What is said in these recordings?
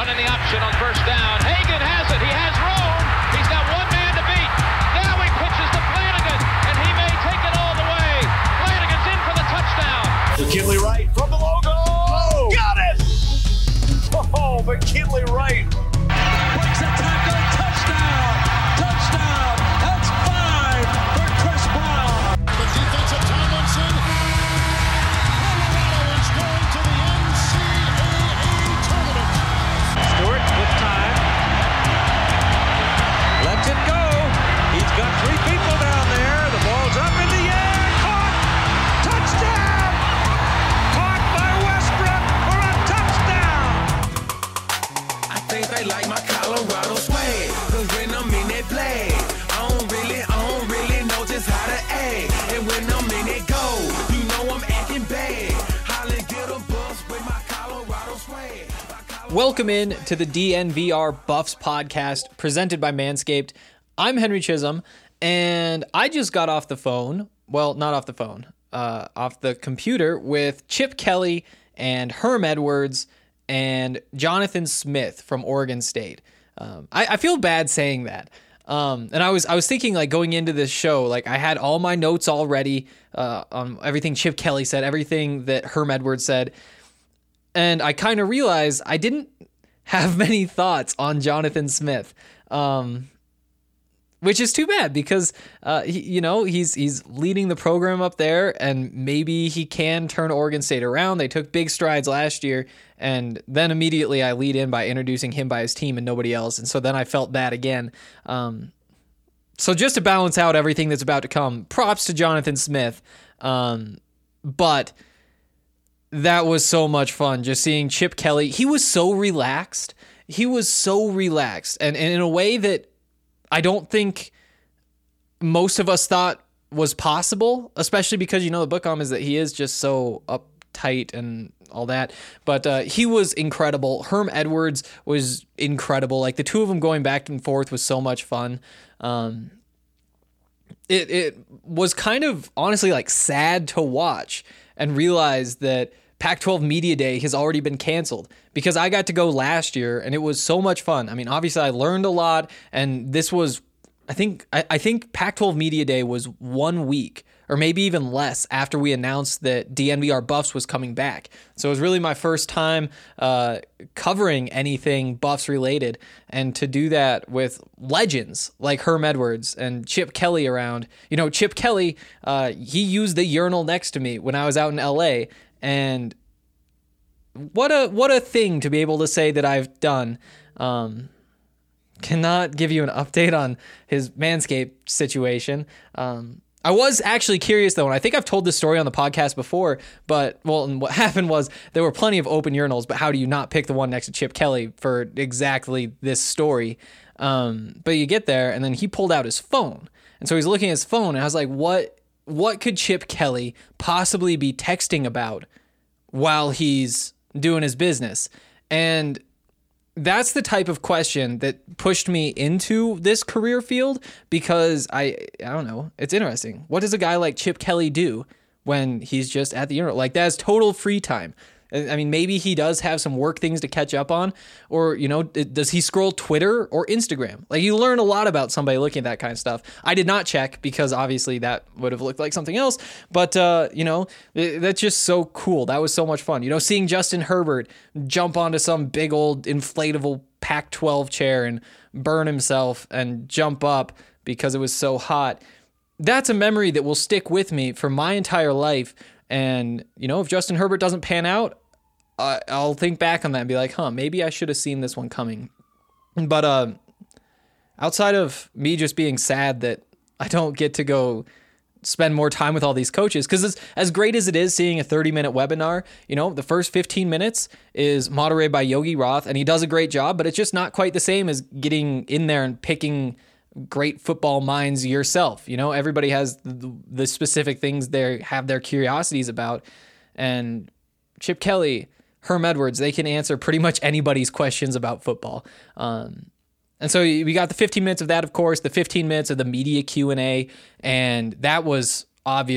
in the option on first down. Hagan has it. He has room. He's got one man to beat. Now he pitches to Flanagan, and he may take it all the way. Flanagan's in for the touchdown. McKinley Wright from the logo. Oh, got it! Oh, McKinley Wright. Breaks a tackle. Touchdown. Touchdown. That's 5 for Chris Brown. The defensive Tomlinson. Colorado is going to the NCAA tournament. Stewart with time. Lets it go. He's got 3 people down there. The ball's up in the air. Caught. Touchdown. Caught by Westbrook for a touchdown. I think they like my Colorado swag, 'cause when I'm in that play, I don't really know just how to act. And when I'm in it go, you know I'm acting bad. Holly get a bus with my Colorado swag. Welcome in to the DNVR Buffs podcast presented by Manscaped. I'm Henry Chisholm, and I just got off the phone. Well, not off the phone, off the computer with Chip Kelly and Herm Edwards and Jonathan Smith from Oregon State. I feel bad saying that. And I was thinking, like, going into this show, like, I had all my notes already on everything Chip Kelly said, everything that Herm Edwards said. And I kind of realized I didn't have many thoughts on Jonathan Smith, which is too bad because, he's leading the program up there, and maybe he can turn Oregon State around. They took big strides last year, and then immediately I lead in by introducing him by his team and nobody else, and so then I felt bad again. So just to balance out everything that's about to come, props to Jonathan Smith, but that was so much fun just seeing Chip Kelly. He was so relaxed. And in a way that I don't think most of us thought was possible, especially because, the book on him is that he is just so uptight and all that. But he was incredible. Herm Edwards was incredible. Like, the two of them going back and forth was so much fun. It was kind of honestly like sad to watch and realize that Pac-12 Media Day has already been canceled, because I got to go last year and it was so much fun. I mean, obviously I learned a lot, and this was, I think Pac-12 Media Day was 1 week or maybe even less after we announced that DNVR Buffs was coming back. So it was really my first time covering anything Buffs related, and to do that with legends like Herm Edwards and Chip Kelly around. Chip Kelly, he used the urinal next to me when I was out in LA, and what a thing to be able to say that I've done. Cannot give you an update on his Manscaped situation. I was actually curious, though, and I think I've told this story on the podcast before, and what happened was there were plenty of open urinals, but how do you not pick the one next to Chip Kelly for exactly this story? But you get there, and then he pulled out his phone, and so he's looking at his phone, and I was like, what could Chip Kelly possibly be texting about while he's doing his business? And that's the type of question that pushed me into this career field, because I don't know, it's interesting. What does a guy like Chip Kelly do when he's just at the urinal? Like, that's total free time. I mean, maybe he does have some work things to catch up on, or, does he scroll Twitter or Instagram? Like, you learn a lot about somebody looking at that kind of stuff. I did not check, because obviously that would have looked like something else, but, that's just so cool. That was so much fun. Seeing Justin Herbert jump onto some big old inflatable Pac-12 chair and burn himself and jump up because it was so hot. That's a memory that will stick with me for my entire life. And, if Justin Herbert doesn't pan out, I'll think back on that and be like, maybe I should have seen this one coming. But outside of me just being sad that I don't get to go spend more time with all these coaches, because as great as it is seeing a 30-minute webinar, the first 15 minutes is moderated by Yogi Roth, and he does a great job, but it's just not quite the same as getting in there and picking great football minds yourself. Everybody has the specific things they have their curiosities about, and Chip Kelly, Herm Edwards, they can answer pretty much anybody's questions about football. And so we got the 15 minutes of that, of course, the 15 minutes of the media Q&A, and that was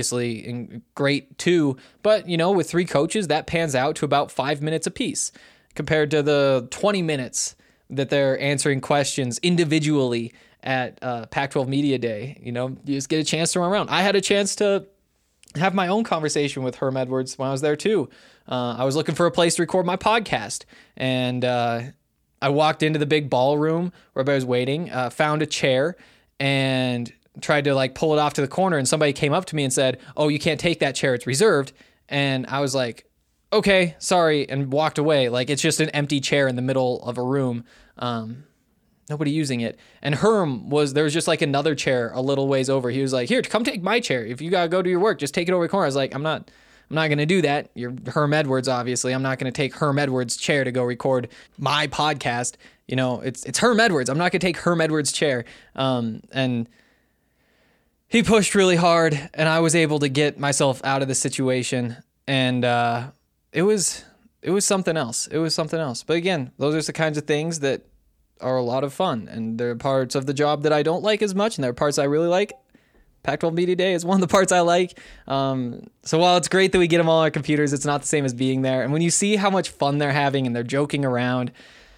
obviously great too. But, with 3 coaches, that pans out to about 5 minutes apiece. compared to the 20 minutes that they're answering questions individually at Pac-12 Media Day. You know, you just get a chance to run around. I had a chance to have my own conversation with Herm Edwards when I was there too. I was looking for a place to record my podcast, and I walked into the big ballroom where everybody was waiting, found a chair, and tried to like pull it off to the corner, and somebody came up to me and said, "Oh, you can't take that chair, it's reserved." And I was like, "Okay, sorry," and walked away. Like, it's just an empty chair in the middle of a room. Nobody using it. And Herm there was just like another chair a little ways over. He was like, "Here, come take my chair. If you gotta go do your work, just take it over the corner." I was like, I'm not gonna do that. You're Herm Edwards, obviously. I'm not gonna take Herm Edwards' chair to go record my podcast. You know, it's Herm Edwards. I'm not gonna take Herm Edwards' chair. And he pushed really hard, and I was able to get myself out of the situation. And it was something else. It was something else. But again, those are the kinds of things that are a lot of fun, and there are parts of the job that I don't like as much, and there are parts I really like. Pac-12 Media Day is one of the parts I like. So while it's great that we get them all on our computers, it's not the same as being there. And when you see how much fun they're having and they're joking around,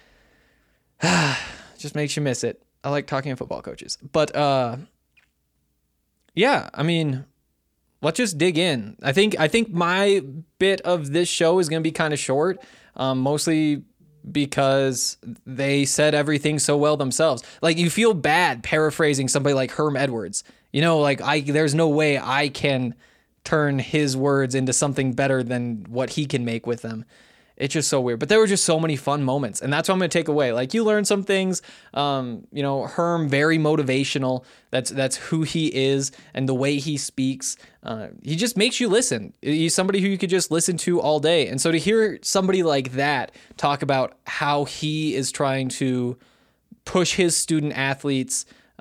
just makes you miss it. I like talking to football coaches. But yeah, I mean, let's just dig in. I think my bit of this show is going to be kind of short, mostly because they said everything so well themselves. Like, you feel bad paraphrasing somebody like Herm Edwards. You know, like, there's no way I can turn his words into something better than what he can make with them. It's just so weird. But there were just so many fun moments, and that's what I'm going to take away. Like, you learn some things. You know, Herm, very motivational. That's who he is, and the way he speaks. He just makes you listen. He's somebody who you could just listen to all day. And so to hear somebody like that talk about how he is trying to push his student athletes,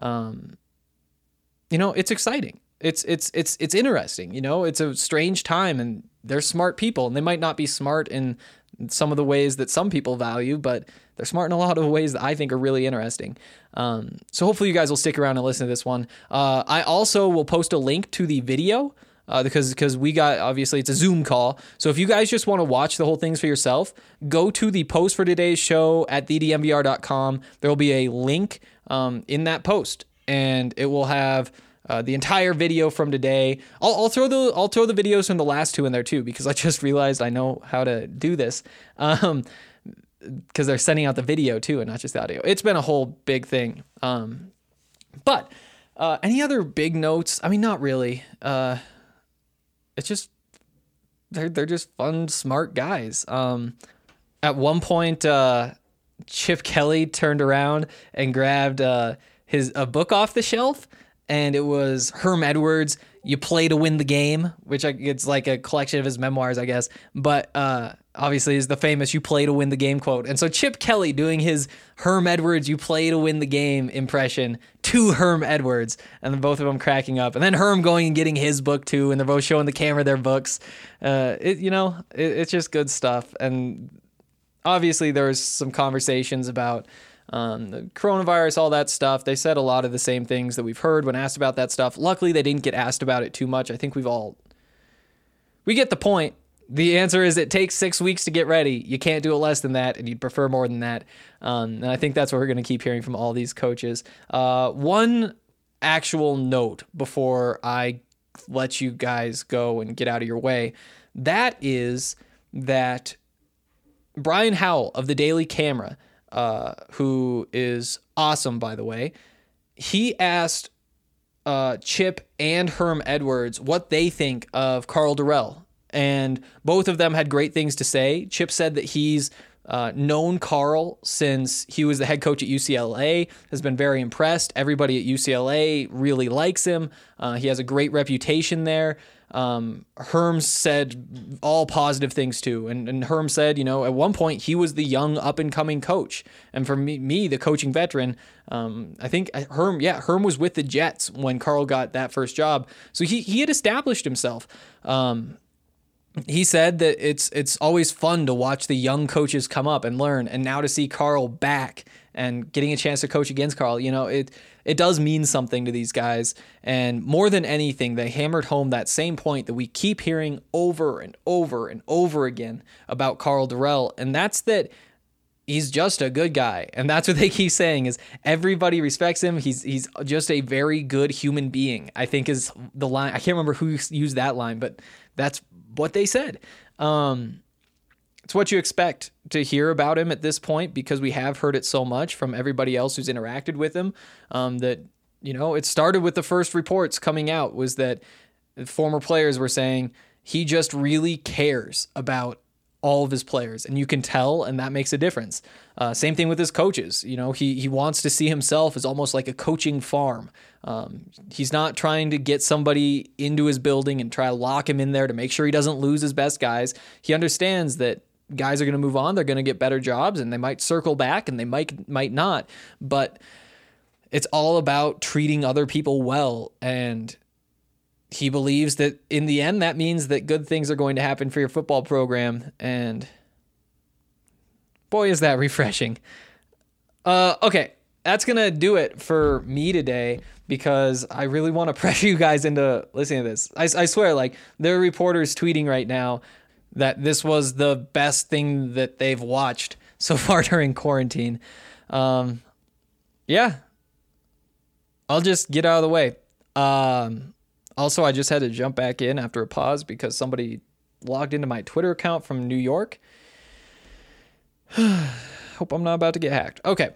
you know, it's exciting. It's interesting. You know, it's a strange time, and they're smart people, and they might not be smart in some of the ways that some people value, but they're smart in a lot of ways that I think are really interesting. So hopefully you guys will stick around and listen to this one. I also will post a link to the video because we got, obviously it's a Zoom call. So if you guys just want to watch the whole things for yourself, go to the post for today's show at thedmbr.com. There will be a link in that post, and it will have the entire video from today. I'll throw the videos from the last two in there too, because I just realized I know how to do this. Because they're sending out the video too, and not just the audio. It's been a whole big thing. But any other big notes? I mean, not really. It's just they're just fun, smart guys. At one point, Chip Kelly turned around and grabbed a book off the shelf. And it was Herm Edwards, You Play to Win the Game, which it's like a collection of his memoirs, I guess. But obviously is the famous You Play to Win the Game quote. And so Chip Kelly doing his Herm Edwards, You Play to Win the Game impression to Herm Edwards. And then both of them cracking up. And then Herm going and getting his book too. And they're both showing the camera their books. It's just good stuff. And obviously there's some conversations about the coronavirus, all that stuff. They said a lot of the same things that we've heard when asked about that stuff. Luckily, they didn't get asked about it too much. I think we get the point. The answer is it takes 6 weeks to get ready. You can't do it less than that, and you'd prefer more than that. And I think that's what we're going to keep hearing from all these coaches. One actual note before I let you guys go and get out of your way, that is that Brian Howell of the Daily Camera, who is awesome, by the way, he asked Chip and Herm Edwards what they think of Karl Dorrell. And both of them had great things to say. Chip said that he's known Karl since he was the head coach at UCLA, has been very impressed. Everybody at UCLA really likes him. He has a great reputation there. Herm said all positive things too. And Herm said, at one point he was the young up and coming coach. And for me, the coaching veteran, I think Herm was with the Jets when Karl got that first job. So he had established himself. he said that it's always fun to watch the young coaches come up and learn, and now to see Carl back and getting a chance to coach against Carl, it does mean something to these guys. And more than anything, they hammered home that same point that we keep hearing over and over and over again about Karl Dorrell, and that's that he's just a good guy. And that's what they keep saying is everybody respects him. He's just a very good human being, I think is the line. I can't remember who used that line, but that's what they said. It's what you expect to hear about him at this point, because we have heard it so much from everybody else who's interacted with him, that, it started with the first reports coming out was that former players were saying he just really cares about all of his players, and you can tell, and that makes a difference. Same thing with his coaches. He wants to see himself as almost like a coaching farm. He's not trying to get somebody into his building and try to lock him in there to make sure he doesn't lose his best guys. He understands that guys are going to move on. They're going to get better jobs, and they might circle back, and they might not. But it's all about treating other people well, and he believes that in the end, that means that good things are going to happen for your football program. And boy, is that refreshing. Okay, that's going to do it for me today, because I really want to pressure you guys into listening to this. I swear, there are reporters tweeting right now that this was the best thing that they've watched so far during quarantine. Yeah. I'll just get out of the way. Also, I just had to jump back in after a pause because somebody logged into my Twitter account from New York. Hope I'm not about to get hacked. Okay.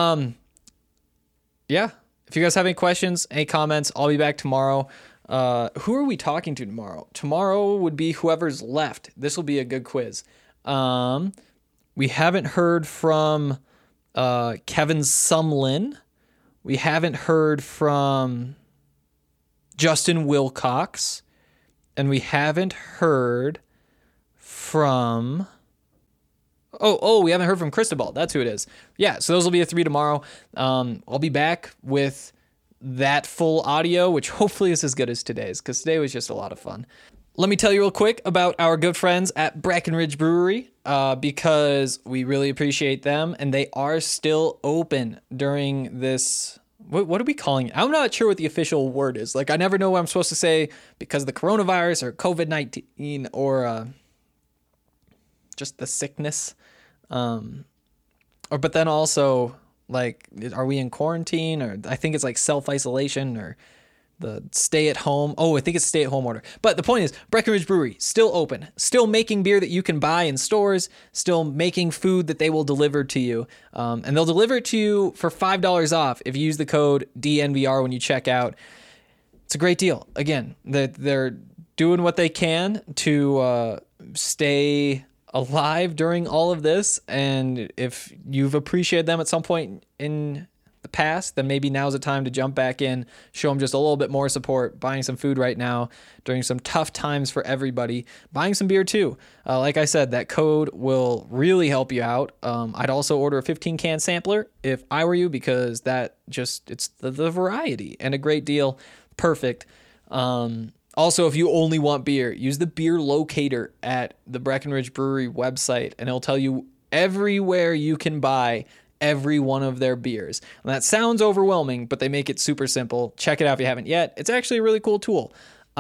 Yeah. If you guys have any questions, any comments, I'll be back tomorrow. Who are we talking to tomorrow? Tomorrow would be whoever's left. This will be a good quiz. We haven't heard from Kevin Sumlin. We haven't heard from Justin Wilcox, and we haven't heard from we haven't heard from Cristobal. That's who it is. Yeah, so those will be the 3 tomorrow. I'll be back with that full audio, which hopefully is as good as today's, because today was just a lot of fun. Let me tell you real quick about our good friends at Breckenridge Brewery, because we really appreciate them, and they are still open during this. What are we calling it? I'm not sure what the official word is. I never know what I'm supposed to say because of the coronavirus or COVID-19 or just the sickness. But then also, are we in quarantine? Or I think it's self-isolation or the stay at home. Oh, I think it's stay at home order. But the point is, Breckenridge Brewery, still open, still making beer that you can buy in stores, still making food that they will deliver to you. And they'll deliver it to you for $5 off if you use the code DNVR when you check out. It's a great deal. Again, they're doing what they can to stay alive during all of this. And if you've appreciated them at some point in the past, then maybe now's the time to jump back in, show them just a little bit more support, buying some food right now during some tough times for everybody, buying some beer too. Like I said, that code will really help you out. I'd also order a 15-can sampler if I were you, because it's the variety and a great deal. Perfect. Also, if you only want beer, use the beer locator at the Breckenridge Brewery website, and it'll tell you everywhere you can buy every one of their beers. And that sounds overwhelming, but they make it super simple. Check it out if you haven't yet. It's actually a really cool tool.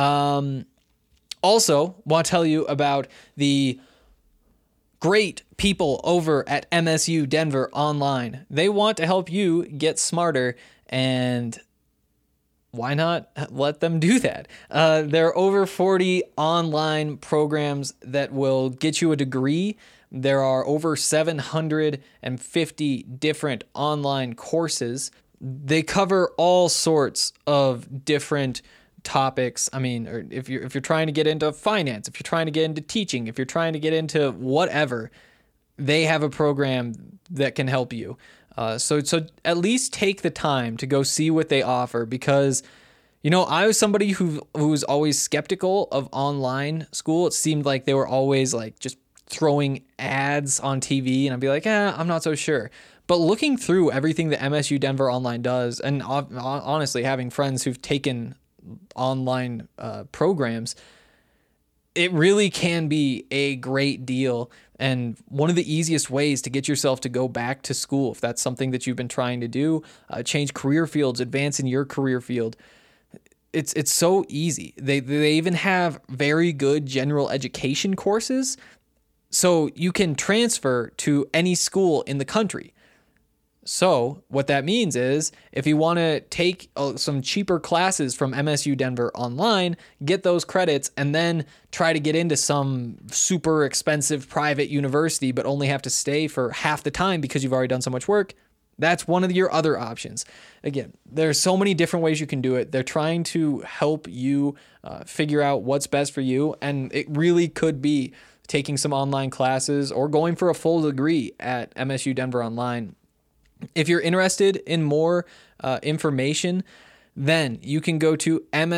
Also, want to tell you about the great people over at MSU Denver Online. They want to help you get smarter, and why not let them do that? There are over 40 online programs that will get you a degree. There are over 750 different online courses. They cover all sorts of different topics. I mean, or if you're trying to get into finance, if you're trying to get into teaching, if you're trying to get into whatever, they have a program that can help you. So at least take the time to go see what they offer, because I was somebody who was always skeptical of online school. It seemed like they were always just throwing ads on TV, and I'd be like, I'm not so sure. But looking through everything that MSU Denver Online does, and honestly having friends who've taken online programs, it really can be a great deal. And one of the easiest ways to get yourself to go back to school, if that's something that you've been trying to do, change career fields, advance in your career field, it's so easy. They even have very good general education courses, so you can transfer to any school in the country. So what that means is if you want to take some cheaper classes from MSU Denver online, get those credits, and then try to get into some super expensive private university, but only have to stay for half the time because you've already done so much work, that's one of your other options. Again, there's so many different ways you can do it. They're trying to help you figure out what's best for you, and it really could be taking some online classes or going for a full degree at MSU Denver Online. If you're interested in more information, then you can go to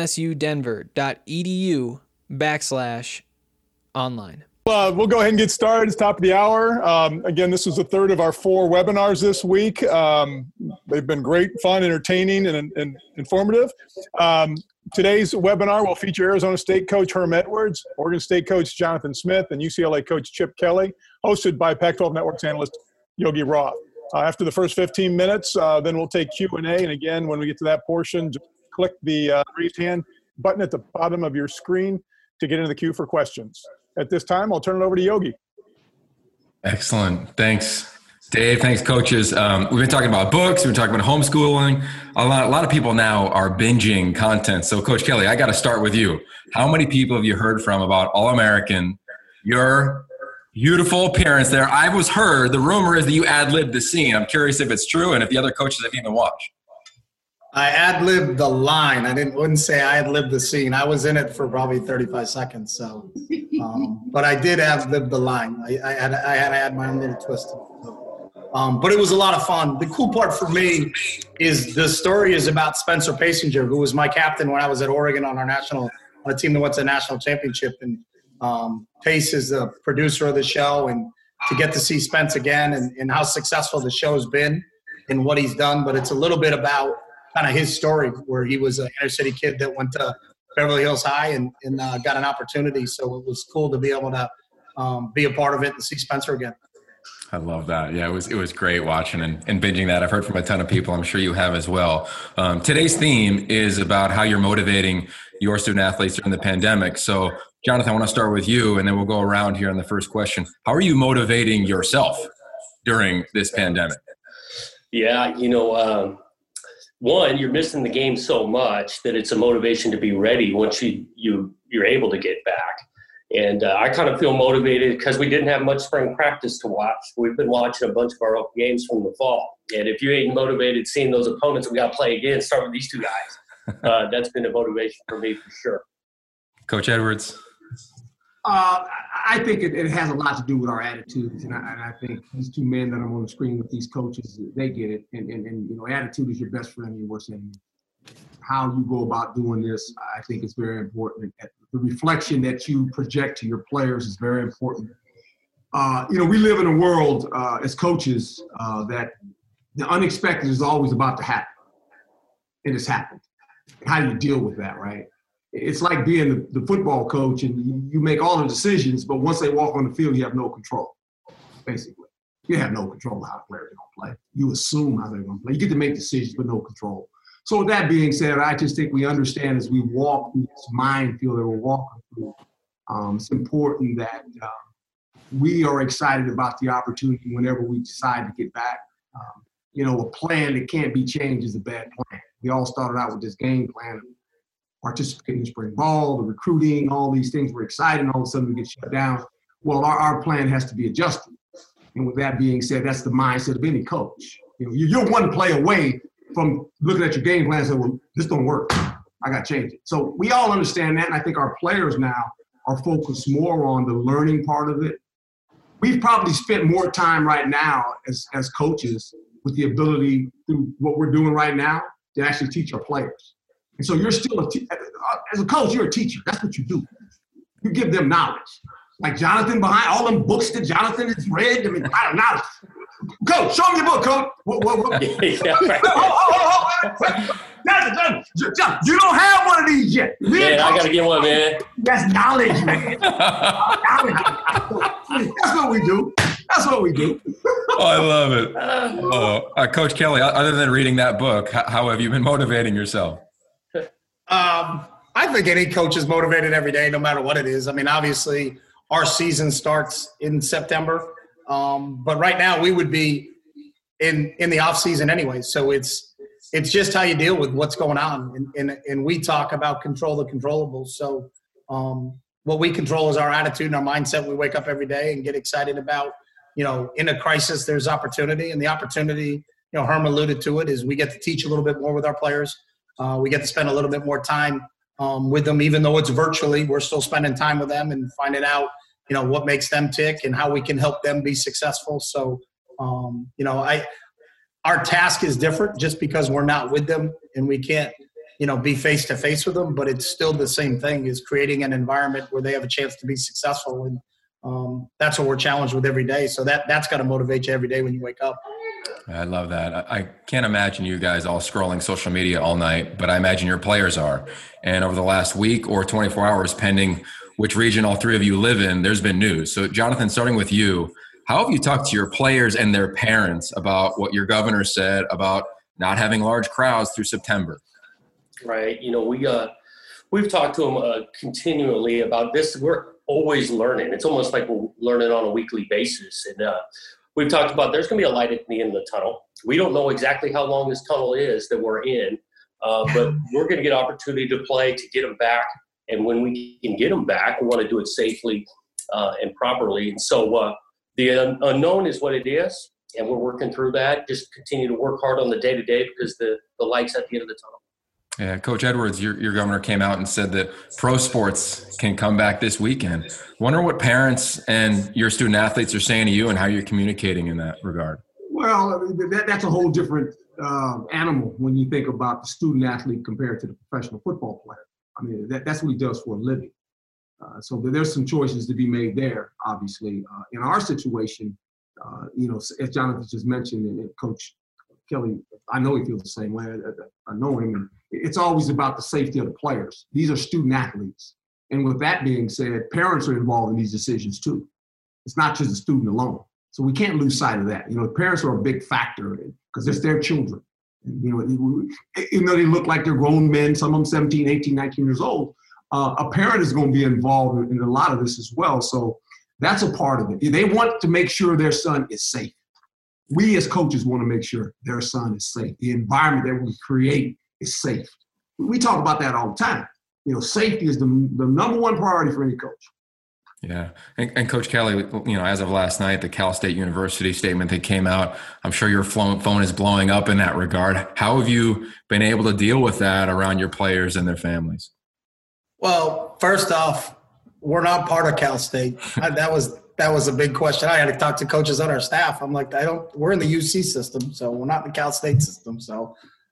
msudenver.edu/online. We'll go ahead and get started. It's top of the hour. Again, this is the third of our 4 webinars this week. They've been great, fun, entertaining, and informative. Today's webinar will feature Arizona State coach Herm Edwards, Oregon State coach Jonathan Smith, and UCLA coach Chip Kelly, hosted by Pac-12 Network's analyst Yogi Roth. After the first 15 minutes, then we'll take Q&A. And again, when we get to that portion, just click the raised hand button at the bottom of your screen to get into the queue for questions. At this time, I'll turn it over to Yogi. Excellent. Thanks, Dave. Thanks, coaches. We've been talking about books. We've been talking about homeschooling. A lot of people now are binging content. So, Coach Kelly, I got to start with you. How many people have you heard from about All-American, your beautiful appearance there? The rumor is that you ad-libbed the scene. I'm curious if it's true and if the other coaches have even watched. I ad-libbed the line. Wouldn't say I ad-libbed the scene. I was in it for probably 35 seconds. So, but I did ad-lib the line. I had to add my own little twist. But it was a lot of fun. The cool part for me is the story is about Spencer Pasinger, who was my captain when I was at Oregon on a team that went to the national championship. And Pace is the producer of the show, and to get to see Spence again and how successful the show's been and what he's done. But it's a little bit about kind of his story, where he was an inner city kid that went to Beverly Hills High and got an opportunity. So it was cool to be able to be a part of it and see Spencer again. I love that. Yeah, it was great watching and binging that. I've heard from a ton of people. I'm sure you have as well. Today's theme is about how you're motivating your student athletes during the pandemic. So, Jonathan, I want to start with you, and then we'll go around here on the first question. How are you motivating yourself during this pandemic? Yeah, one, you're missing the game so much that it's a motivation to be ready once you're able to get back. And I kind of feel motivated because we didn't have much spring practice to watch. We've been watching a bunch of our games from the fall. And if you ain't motivated seeing those opponents we got to play again, start with these two guys. That's been a motivation for me for sure. Coach Edwards? I think it has a lot to do with our attitudes. And I think these two men that I'm on the screen with, these coaches, they get it. And attitude is your best friend and your worst enemy. How you go about doing this, I think is very important. The reflection that you project to your players is very important. We live in a world as coaches that the unexpected is always about to happen. It has happened. How do you deal with that, right? It's like being the football coach, and you make all the decisions, but once they walk on the field, you have no control, basically. You have no control of how the players are going to play. You assume how they're going to play. You get to make decisions, but no control. So with that being said, I just think we understand as we walk through this minefield that we're walking through, it's important that we are excited about the opportunity whenever we decide to get back. A plan that can't be changed is a bad plan. We all started out with this game plan, participating in spring ball, the recruiting, all these things were exciting. All of a sudden we get shut down. Well, our plan has to be adjusted. And with that being said, that's the mindset of any coach. You're one play away from looking at your game plan and saying, well, this don't work. I got to change it. So we all understand that, and I think our players now are focused more on the learning part of it. We've probably spent more time right now as coaches with the ability through what we're doing right now to actually teach our players. And so you're still as a coach, you're a teacher. That's what you do. You give them knowledge. Like Jonathan behind all them books that Jonathan has read, I don't know. Coach, show me your book, Coach. What? Yeah, right. John, you don't have one of these yet. Man, I got to get one, man. That's knowledge, man. That's what we do. That's what we do. Oh, I love it. Coach Kelly, other than reading that book, how have you been motivating yourself? I think any coach is motivated every day, no matter what it is. I mean, obviously, our season starts in September, but right now we would be in the off season anyway. So it's just how you deal with what's going on, and we talk about control the controllables. So what we control is our attitude and our mindset. We wake up every day and get excited about. In a crisis, there's opportunity, and the opportunity, Herm alluded to it, is we get to teach a little bit more with our players. We get to spend a little bit more time with them, even though it's virtually. We're still spending time with them and finding out, what makes them tick and how we can help them be successful. So, our task is different just because we're not with them and we can't, be face to face with them. But it's still the same thing: is creating an environment where they have a chance to be successful, and that's what we're challenged with every day. So that's got to motivate you every day when you wake up. I love that. I can't imagine you guys all scrolling social media all night, but I imagine your players are. And over the last week or 24 hours, pending which region all three of you live in, there's been news. So, Jonathan, starting with you, how have you talked to your players and their parents about what your governor said about not having large crowds through September? Right. We've talked to them continually about this. We're always learning. It's almost like we're learning on a weekly basis. And we've talked about there's going to be a light at the end of the tunnel. We don't know exactly how long this tunnel is that we're in, but we're going to get opportunity to play, to get them back. And when we can get them back, we want to do it safely and properly. And so the unknown is what it is, and we're working through that. Just continue to work hard on the day-to-day because the light's at the end of the tunnel. Yeah, Coach Edwards, your governor came out and said that pro sports can come back this weekend. Wonder what parents and your student athletes are saying to you and how you're communicating in that regard. Well, that's a whole different animal when you think about the student athlete compared to the professional football player. I mean, that's what he does for a living. So there's some choices to be made there, obviously. In our situation, as Jonathan just mentioned, and Coach Kelly, I know he feels the same way. I know him. It's always about the safety of the players. These are student athletes. And with that being said, parents are involved in these decisions too. It's not just the student alone. So we can't lose sight of that. Parents are a big factor because it's their children. And, even though they look like they're grown men, some of them 17, 18, 19 years old, a parent is going to be involved in a lot of this as well. So that's a part of it. They want to make sure their son is safe. We as coaches want to make sure their son is safe. The environment that we create is safe. We talk about that all the time. Safety is the number one priority for any coach. Yeah. And Coach Kelly, as of last night, the Cal State University statement that came out, I'm sure your phone is blowing up in that regard. How have you been able to deal with that around your players and their families? Well, first off, we're not part of Cal State. That was a big question. I had to talk to coaches on our staff. I'm like, we're in the UC system, so we're not in the Cal State system. So,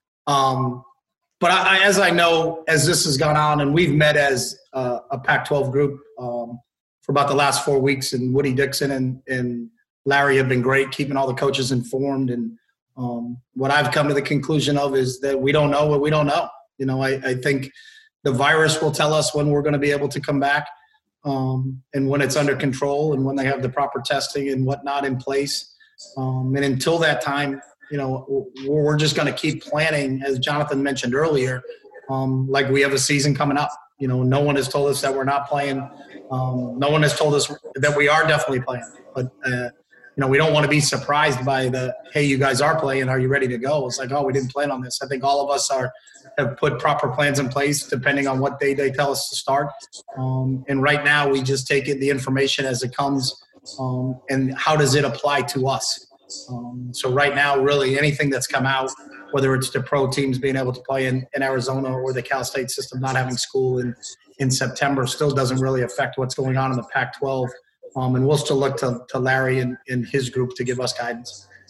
but as I know, as this has gone on, and we've met as a Pac-12 group for about the last 4 weeks, and Woody Dixon and Larry have been great, keeping all the coaches informed. And what I've come to the conclusion of is that we don't know what we don't know. I think the virus will tell us when we're going to be able to come back. And when it's under control and when they have the proper testing and whatnot in place. And until that time, we're just going to keep planning, as Jonathan mentioned earlier, like we have a season coming up. No one has told us that we're not playing. No one has told us that we are definitely playing. But, we don't want to be surprised by hey, you guys are playing. Are you ready to go? It's like, oh, we didn't plan on this. I think all of us have put proper plans in place depending on what day they tell us to start. And right now we just take the information as it comes and how does it apply to us. So right now, really anything that's come out, whether it's the pro teams being able to play in Arizona or the Cal State system not having school in September, still doesn't really affect what's going on in the Pac-12. And we'll still look to Larry and his group to give us guidance.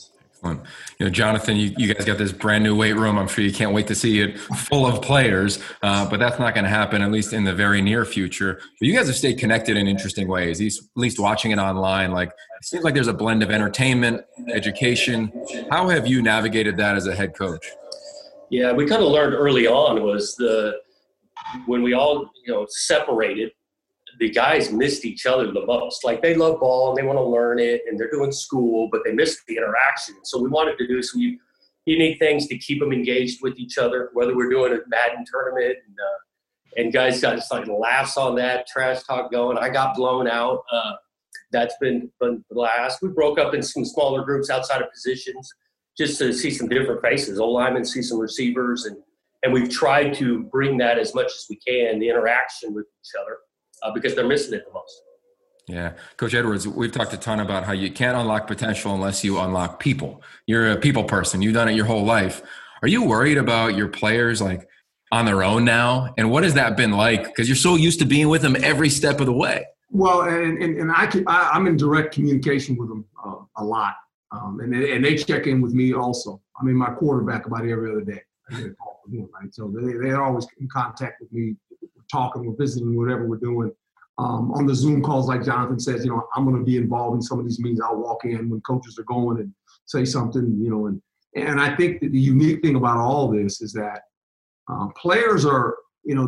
Jonathan, you guys got this brand new weight room. I'm sure you can't wait to see it full of players, but that's not going to happen, at least in the very near future. But you guys have stayed connected in interesting ways, at least watching it online. Like, it seems like there's a blend of entertainment, education. How have you navigated that as a head coach? Yeah, we kind of learned early on was when we all, separated, the guys missed each other the most. Like, they love ball and they want to learn it and they're doing school, but they missed the interaction. So we wanted to do some unique things to keep them engaged with each other, whether we're doing a Madden tournament and guys got just like laughs on that, trash talk going. I got blown out. That's been the last. We broke up in some smaller groups outside of positions just to see some different faces. O-linemen, see some receivers, and we've tried to bring that as much as we can, the interaction with each other. Because they're missing it the most. Yeah. Coach Edwards, we've talked a ton about how you can't unlock potential unless you unlock people. You're a people person. You've done it your whole life. Are you worried about your players like on their own now? And what has that been like? Because you're so used to being with them every step of the way. Well, and I'm in direct communication with them a lot. And they check in with me also. I mean, my quarterback about every other day. I get a call from him, right? So they're always in contact with me. Talking, we're visiting, whatever we're doing. On the Zoom calls, like Jonathan says, I'm going to be involved in some of these meetings. I'll walk in when coaches are going and say something, and I think that the unique thing about all this is that players are,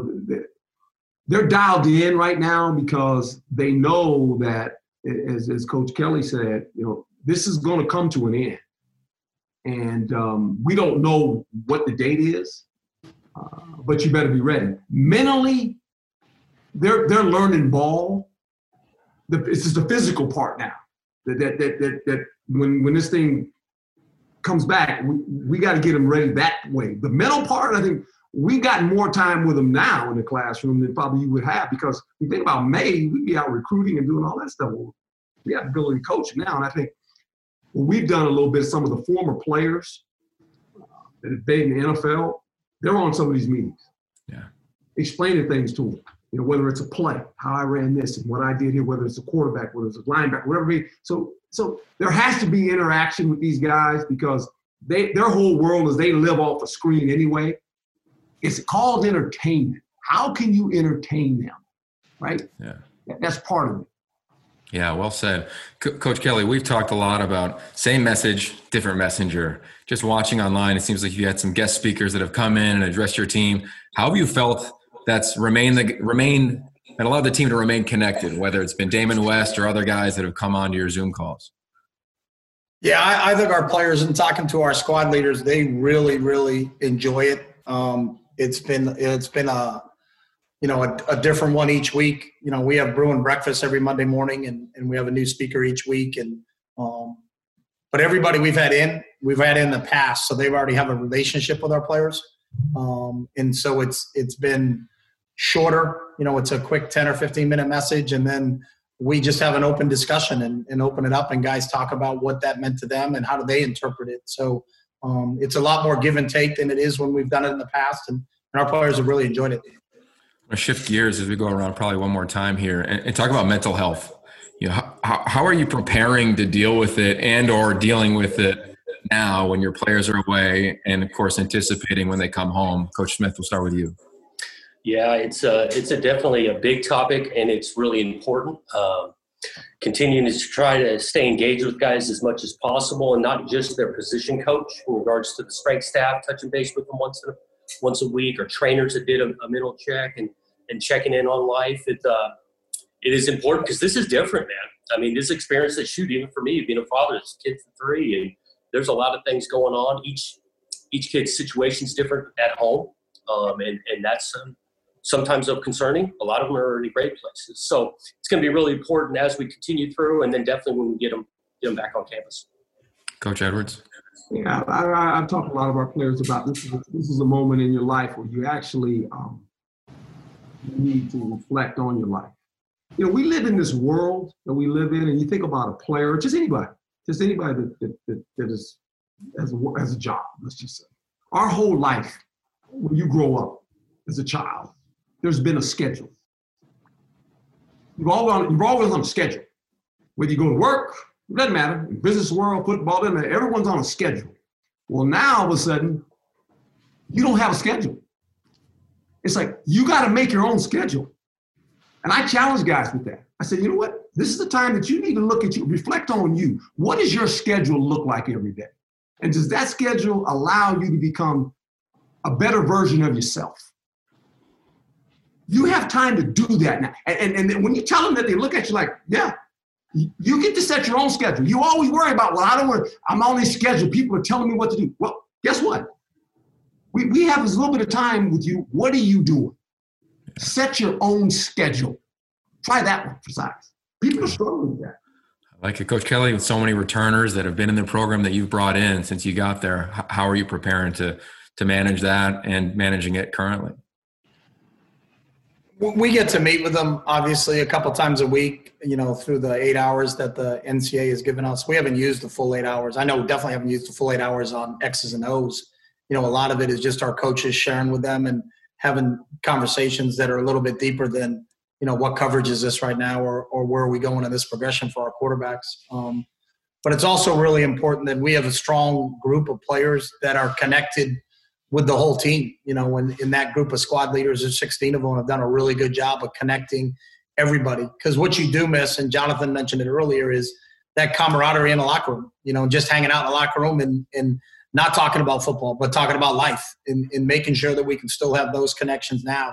they're dialed in right now because they know that, as Coach Kelly said, this is going to come to an end. And we don't know what the date is. But you better be ready. Mentally, they're learning ball. It's just the physical part now. That when this thing comes back, we got to get them ready that way. The mental part, I think we got more time with them now in the classroom than probably you would have, because you think about May, we'd be out recruiting and doing all that stuff. Well, we have the ability to coach now, and I think we've done a little bit. Some of the former players that have been in the NFL. They're on some of these meetings, explaining things to them, whether it's a play, how I ran this and what I did here, whether it's a quarterback, whether it's a linebacker, whatever it is. So there has to be interaction with these guys because their whole world is they live off a screen anyway. It's called entertainment. How can you entertain them, right? Yeah. That's part of it. Yeah, well said. Coach Kelly, we've talked a lot about same message, different messenger. Just watching online, it seems like you had some guest speakers that have come in and addressed your team. How have you felt that's remained and allowed the team to remain connected, whether it's been Damon West or other guys that have come onto your Zoom calls? Yeah, I think our players, and talking to our squad leaders, they really, really enjoy it. It's been a different one each week. We have Bruin breakfast every Monday morning, and we have a new speaker each week. And but everybody we've had in the past, so they've already have a relationship with our players. And so it's been shorter. It's a quick 10 or 15-minute message, and then we just have an open discussion and open it up, and guys talk about what that meant to them and how do they interpret it. So it's a lot more give and take than it is when we've done it in the past, and our players have really enjoyed it. I'm going to shift gears as we go around probably one more time here and talk about mental health. How are you preparing to deal with it and or dealing with it now when your players are away and, of course, anticipating when they come home? Coach Smith, we'll start with you. Yeah, it's definitely a big topic, and it's really important. Continuing to try to stay engaged with guys as much as possible, and not just their position coach in regards to the strength staff, touching base with them once a week, or trainers that did a mental check and checking in on life. It is important because this is different, man. I mean, this experience that even for me, being a father, it's a kid for 3, and there's a lot of things going on. Each kid's situation is different at home, and that's sometimes concerning. A lot of them are in great places. So it's going to be really important as we continue through, and then definitely when we get them back on campus. Coach Edwards. Yeah, I've talked to a lot of our players about this. This is a moment in your life where you actually need to reflect on your life. We live in this world that we live in, and you think about a player, just anybody that is as a job, let's just say. Our whole life, when you grow up as a child, there's been a schedule. You're always on a schedule. Whether you go to work, It doesn't matter. Business world, football, doesn't matter. Everyone's on a schedule. Well, now all of a sudden, you don't have a schedule. It's like, you got to make your own schedule. And I challenge guys with that. I said, you know what? This is the time that you need to look at you, reflect on you. What does your schedule look like every day? And does that schedule allow you to become a better version of yourself? You have time to do that now. And when you tell them that, they look at you like, yeah, you get to set your own schedule. You always worry about, well, I'm on this schedule. People are telling me what to do. Well, guess what? We have this little bit of time with you. What are you doing? Set your own schedule. Try that one for size. People are struggling with that. I like it. Coach Kelly, with so many returners that have been in the program that you've brought in since you got there, how are you preparing to manage that and managing it currently? We get to meet with them, obviously, a couple times a week, through the 8 hours that the NCAA has given us. We haven't used the full 8 hours. I know we definitely haven't used the full 8 hours on X's and O's. A lot of it is just our coaches sharing with them and having conversations that are a little bit deeper than, what coverage is this right now or where are we going in this progression for our quarterbacks. But it's also really important that we have a strong group of players that are connected with the whole team. In that group of squad leaders, there's 16 of them have done a really good job of connecting everybody. Because what you do miss, and Jonathan mentioned it earlier, is that camaraderie in the locker room, just hanging out in the locker room and not talking about football, but talking about life and making sure that we can still have those connections now.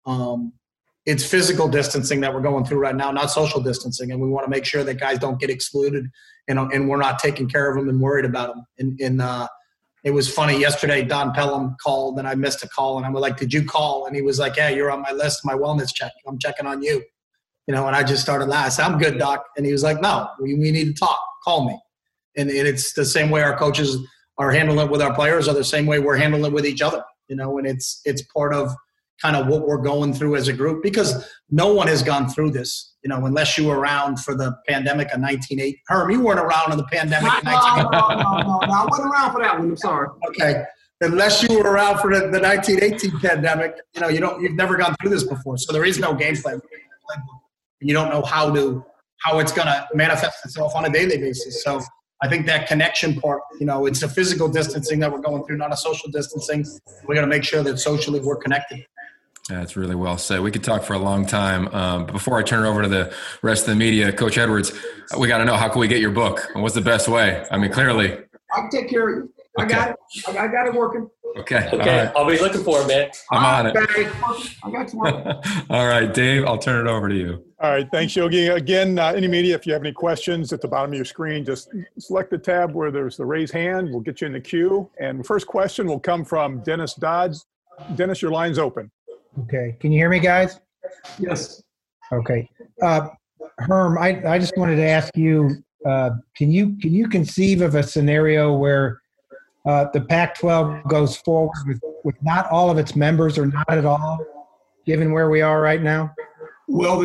It's physical distancing that we're going through right now, not social distancing. And we want to make sure that guys don't get excluded and we're not taking care of them and worried about them. It was funny. Yesterday, Don Pelham called and I missed a call. And I was like, did you call? And he was like, yeah, you're on my list, my wellness check. I'm checking on you. And I just started laughing. I said, I'm good, Doc. And he was like, no, we need to talk. Call me. And it's the same way our coaches are handling it with our players or the same way we're handling it with each other, and it's part of kind of what we're going through as a group because no one has gone through this, unless you were around for the pandemic of 1980. Herm, you weren't around in the pandemic of 1980. No, I wasn't around for that one. I'm sorry. Okay. Unless you were around for the 1918 pandemic, you've never gone through this before. So there is no game plan. You don't know how it's going to manifest itself on a daily basis. So I think that connection part, it's a physical distancing that we're going through, not a social distancing. We're going to make sure that socially we're connected. That's really well said. We could talk for a long time. But before I turn it over to the rest of the media, Coach Edwards, we got to know, how can we get your book? And what's the best way? I mean, clearly. I can take care of you. I got it. I got it working. Okay. Okay. Right. I'll be looking for it, man. I'm on it. I got you working. All right, Dave, I'll turn it over to you. All right. Thanks, Yogi. Again, any media, if you have any questions at the bottom of your screen, just select the tab where there's the raise hand. We'll get you in the queue. And the first question will come from Dennis Dodds. Dennis, your line's open. Okay. Can you hear me, guys? Yes. Okay. Herm, I just wanted to ask you, can you conceive of a scenario where the Pac-12 goes forward with not all of its members or not at all, given where we are right now? Well,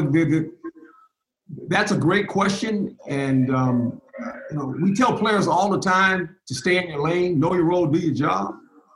that's a great question. And, we tell players all the time to stay in your lane, know your role, do your job.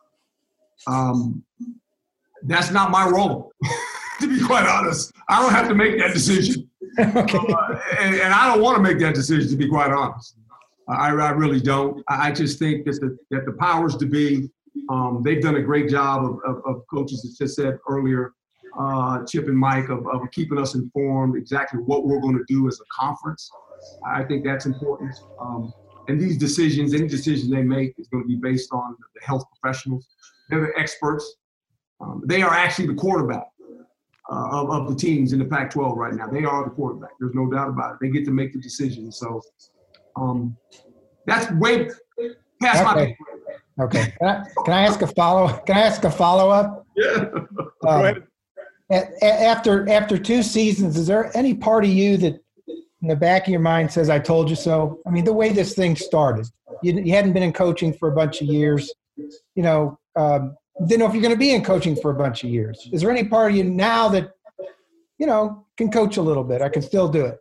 That's not my role, to be quite honest. I don't have to make that decision. Okay. And I don't want to make that decision, to be quite honest. I really don't. I just think that the powers to be, they've done a great job of coaches, as just said earlier, Chip and Mike, of keeping us informed exactly what we're going to do as a conference. I think that's important. And these decisions, any decision they make is going to be based on the health professionals. They're the experts. They are actually the quarterback of the teams in the Pac-12 right now. They are the quarterback. There's no doubt about it. They get to make the decision. So that's way past my. Okay. Can I ask a follow-up? Yeah. Go ahead. After 2 seasons, is there any part of you that in the back of your mind says, I told you so? I mean, the way this thing started, you hadn't been in coaching for a bunch of years, didn't know if you're going to be in coaching for a bunch of years. Is there any part of you now that, can coach a little bit? I can still do it.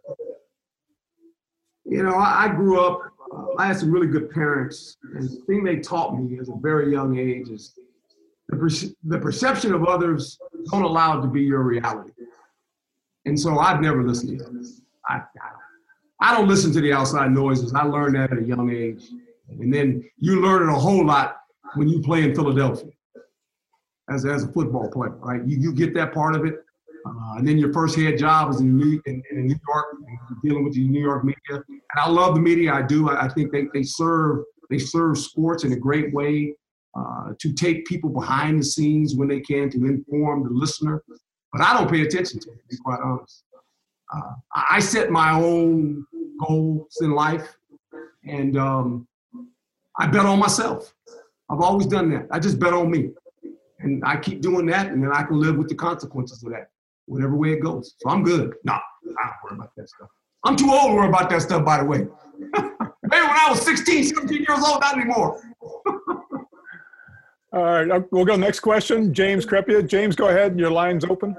I grew up, I had some really good parents. And the thing they taught me at a very young age is the perception of others don't allow it to be your reality. And so I've never listened to them. I don't listen to the outside noises. I learned that at a young age. And then you learn it a whole lot when you play in Philadelphia as a football player, right? You get that part of it. And then your first head job is in New York, dealing with the New York media. And I love the media. I do. I think they serve sports in a great way to take people behind the scenes when they can, to inform the listener. But I don't pay attention to it, to be quite honest. I set my own goals in life, and I bet on myself. I've always done that. I just bet on me. And I keep doing that, and then I can live with the consequences of that, whatever way it goes. So I'm good. No, I don't worry about that stuff. I'm too old to worry about that stuff, by the way. Maybe when I was 16, 17 years old, not anymore. All right, we'll go next question. James Crepea. James, go ahead. Your line's open.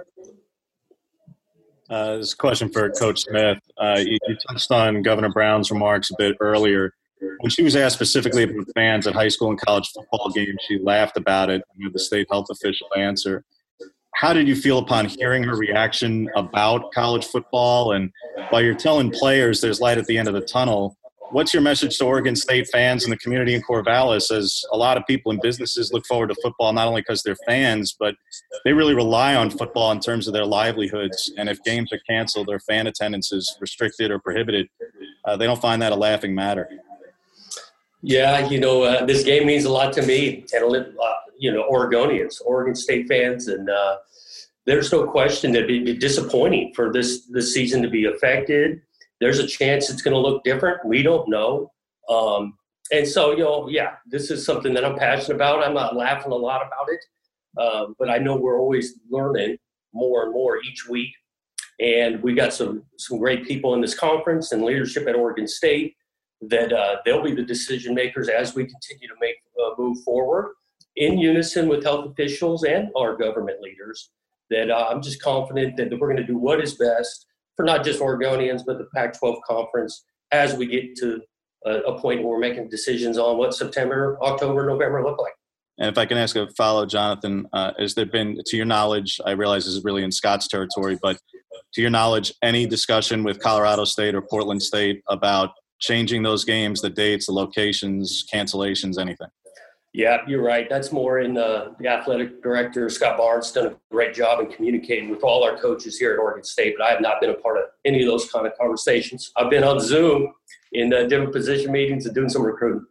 This is a question for Coach Smith. You touched on Governor Brown's remarks a bit earlier. When she was asked specifically about fans at high school and college football games, she laughed about it with the state health official answer. How did you feel upon hearing her reaction about college football? And while you're telling players there's light at the end of the tunnel, what's your message to Oregon State fans and the community in Corvallis, as a lot of people and businesses look forward to football, not only because they're fans, but they really rely on football in terms of their livelihoods. And if games are canceled or fan attendance is restricted or prohibited, they don't find that a laughing matter. Yeah, this game means a lot to me and, Oregonians, Oregon State fans. And there's no question that it'd be disappointing for this season to be affected. There's a chance it's going to look different. We don't know. And so, this is something that I'm passionate about. I'm not laughing a lot about it, but I know we're always learning more and more each week. And we got some great people in this conference and leadership at Oregon State that they'll be the decision makers as we continue to move forward in unison with health officials and our government leaders. That I'm just confident that we're going to do what is best for not just Oregonians, but the Pac-12 conference as we get to a point where we're making decisions on what September, October, November look like. And if I can ask a follow, Jonathan, has there been, to your knowledge, I realize this is really in Scott's territory, but to your knowledge, any discussion with Colorado State or Portland State about changing those games, the dates, the locations, cancellations, anything? Yeah, you're right. That's more in the athletic director, Scott Barnes, done a great job in communicating with all our coaches here at Oregon State, but I have not been a part of any of those kind of conversations. I've been on Zoom in different position meetings and doing some recruiting.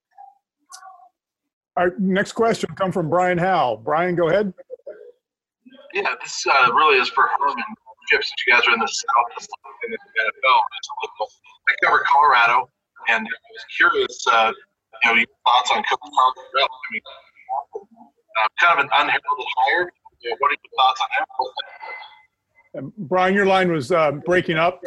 Our next question will come from Brian Howell. Brian, go ahead. Yeah, this really is for Herman. Chip, since you guys are in the South in the NFL, I cover Colorado, and I was curious, your thoughts on Coach Karl Dorrell. I mean, kind of an unheralded hire. What are your thoughts on him? Brian, your line was breaking up.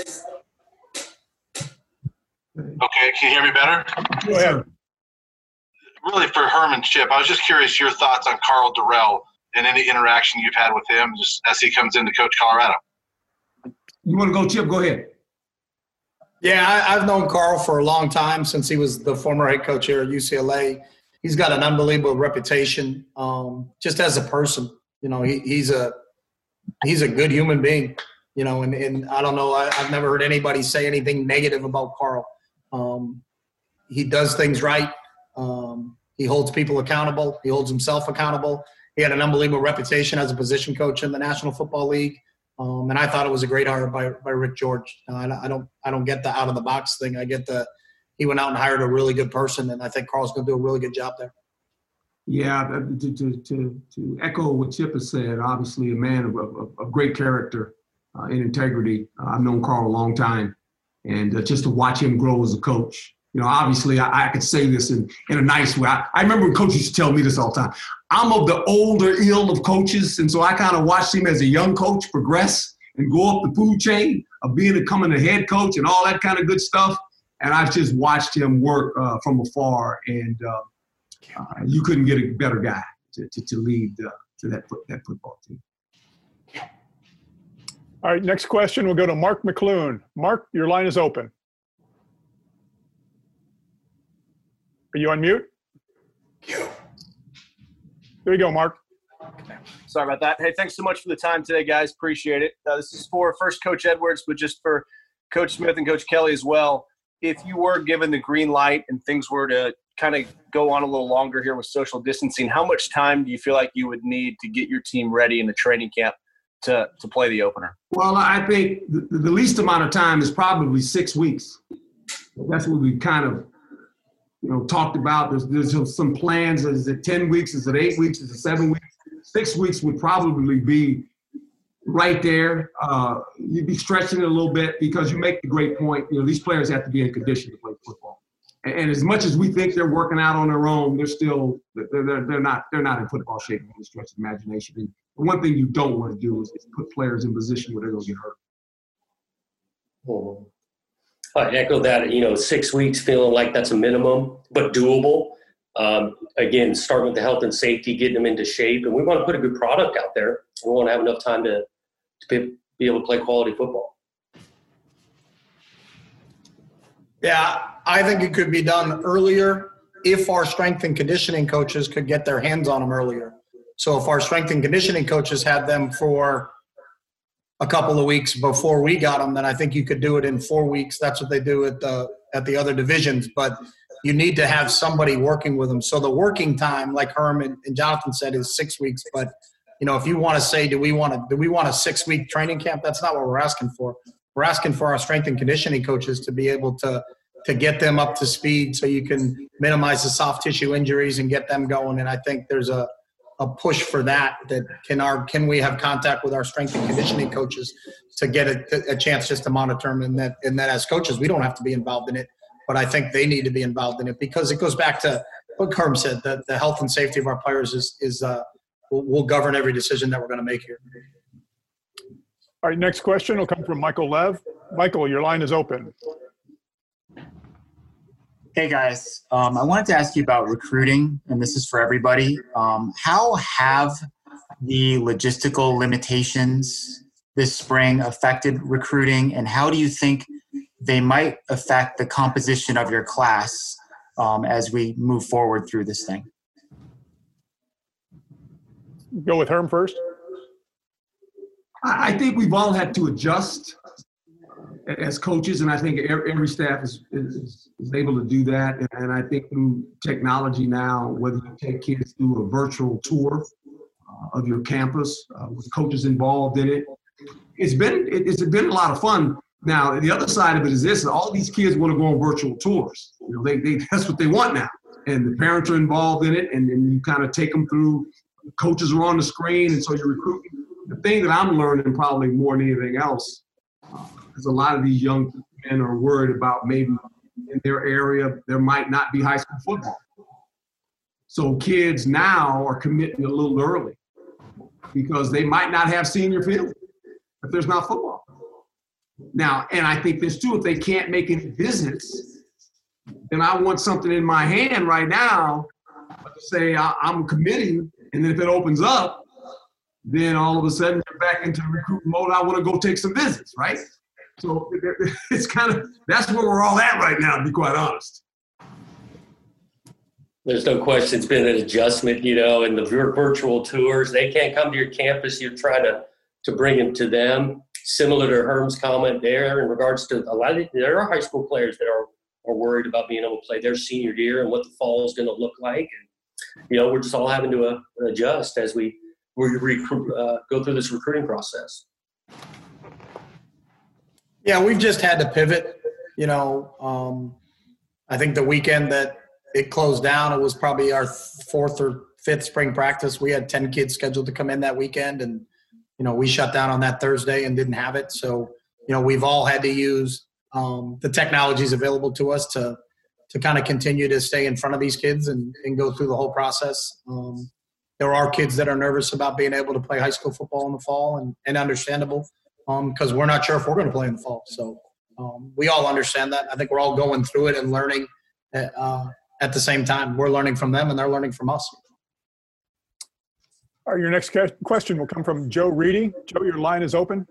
Okay, can you hear me better? Go ahead. Really, for Herman, Chip, I was just curious your thoughts on Karl Dorrell and any interaction you've had with him just as he comes in to coach Colorado. You want to go, Chip? Go ahead. Yeah, I've known Karl for a long time, since he was the former head coach here at UCLA. He's got an unbelievable reputation, just as a person. He's a good human being. And I don't know, I've never heard anybody say anything negative about Karl. He does things right. He holds people accountable. He holds himself accountable. He had an unbelievable reputation as a position coach in the National Football League. And I thought it was a great hire by Rick George. I don't get the out of the box thing. I get he went out and hired a really good person, and I think Karl's going to do a really good job there. Yeah, to echo what Chip has said, obviously a man of great character and integrity. I've known Karl a long time, and just to watch him grow as a coach. Obviously I could say this in a nice way. I remember when coaches used to tell me this all the time. I'm of the older ill of coaches, and so I kind of watched him as a young coach progress and go up the food chain of becoming a head coach and all that kind of good stuff. And I've just watched him work from afar, and you couldn't get a better guy to lead that football team. All right, next question. We'll go to Mark McClune. Mark, your line is open. Are you on mute? There you go, Mark. Sorry about that. Hey, thanks so much for the time today, guys. Appreciate it. This is for first Coach Edwards, but just for Coach Smith and Coach Kelly as well. If you were given the green light and things were to kind of go on a little longer here with social distancing, how much time do you feel like you would need to get your team ready in the training camp to play the opener? Well, I think the least amount of time is probably 6 weeks. That's what we kind of, talked about. There's some plans. Is it 10 weeks? Is it 8 weeks? Is it 7 weeks? 6 weeks would probably be right there. You'd be stretching it a little bit because you make the great point. These players have to be in condition to play football. And as much as we think they're working out on their own, they're not in football shape by any stretch of imagination. And the one thing you don't want to do is put players in position where they're going to get hurt. Oh. I echo that. 6 weeks, feeling like that's a minimum, but doable. Again, starting with the health and safety, getting them into shape, and we want to put a good product out there. We want to have enough time to be able to play quality football. Yeah, I think it could be done earlier if our strength and conditioning coaches could get their hands on them earlier. So if our strength and conditioning coaches had them for a couple of weeks before we got them, then I think you could do it in 4 weeks. That's what they do at the other divisions. But you need to have somebody working with them. So the working time, like Herm and Jonathan said, is 6 weeks. But if you want to say, do we want a 6-week training camp? That's not what we're asking for. We're asking for our strength and conditioning coaches to be able to get them up to speed so you can minimize the soft tissue injuries and get them going. And I think there's a push for that can we have contact with our strength and conditioning coaches to get a chance just to monitor them, and that as coaches we don't have to be involved in it, but I think they need to be involved in it because it goes back to what Herm said, that the health and safety of our players will govern every decision that we're going to make here. All right, next question will come from Michael Lev. Michael, your line is open. Hey guys, I wanted to ask you about recruiting, and this is for everybody. How have the logistical limitations this spring affected recruiting, and how do you think they might affect the composition of your class as we move forward through this thing? Go with Herm first. I think we've all had to adjust as coaches, and I think every staff is able to do that. And I think through technology now, whether you take kids through a virtual tour of your campus with coaches involved in it, it's been a lot of fun. Now, the other side of it is this: all these kids want to go on virtual tours. That's what they want now, and the parents are involved in it, and you kind of take them through. Coaches are on the screen, and so you're recruiting. The thing that I'm learning probably more than anything else is a lot of these young men are worried about maybe in their area there might not be high school football. So kids now are committing a little early because they might not have senior field if there's not football. Now, and I think this too, if they can't make any visits, then I want something in my hand right now to say I'm committing, and then if it opens up, then all of a sudden you're back into recruiting mode. I want to go take some visits, right? So it's that's where we're all at right now, to be quite honest. There's no question it's been an adjustment, and the virtual tours, they can't come to your campus. You're trying to bring them to them. Similar to Herm's comment there in regards to there are high school players that are worried about being able to play their senior year and what the fall is going to look like. And, we're just all having to adjust as we go through this recruiting process. Yeah, we've just had to pivot. I think the weekend that it closed down, it was probably our 4th or 5th spring practice. We had 10 kids scheduled to come in that weekend, and we shut down on that Thursday and didn't have it. So we've all had to use the technologies available to us to kind of continue to stay in front of these kids and go through the whole process. There are kids that are nervous about being able to play high school football in the fall, and understandable because we're not sure if we're going to play in the fall. So we all understand that. I think we're all going through it and learning at the same time. We're learning from them and they're learning from us. All right, your next question will come from Joe Reedy. Joe, your line is open.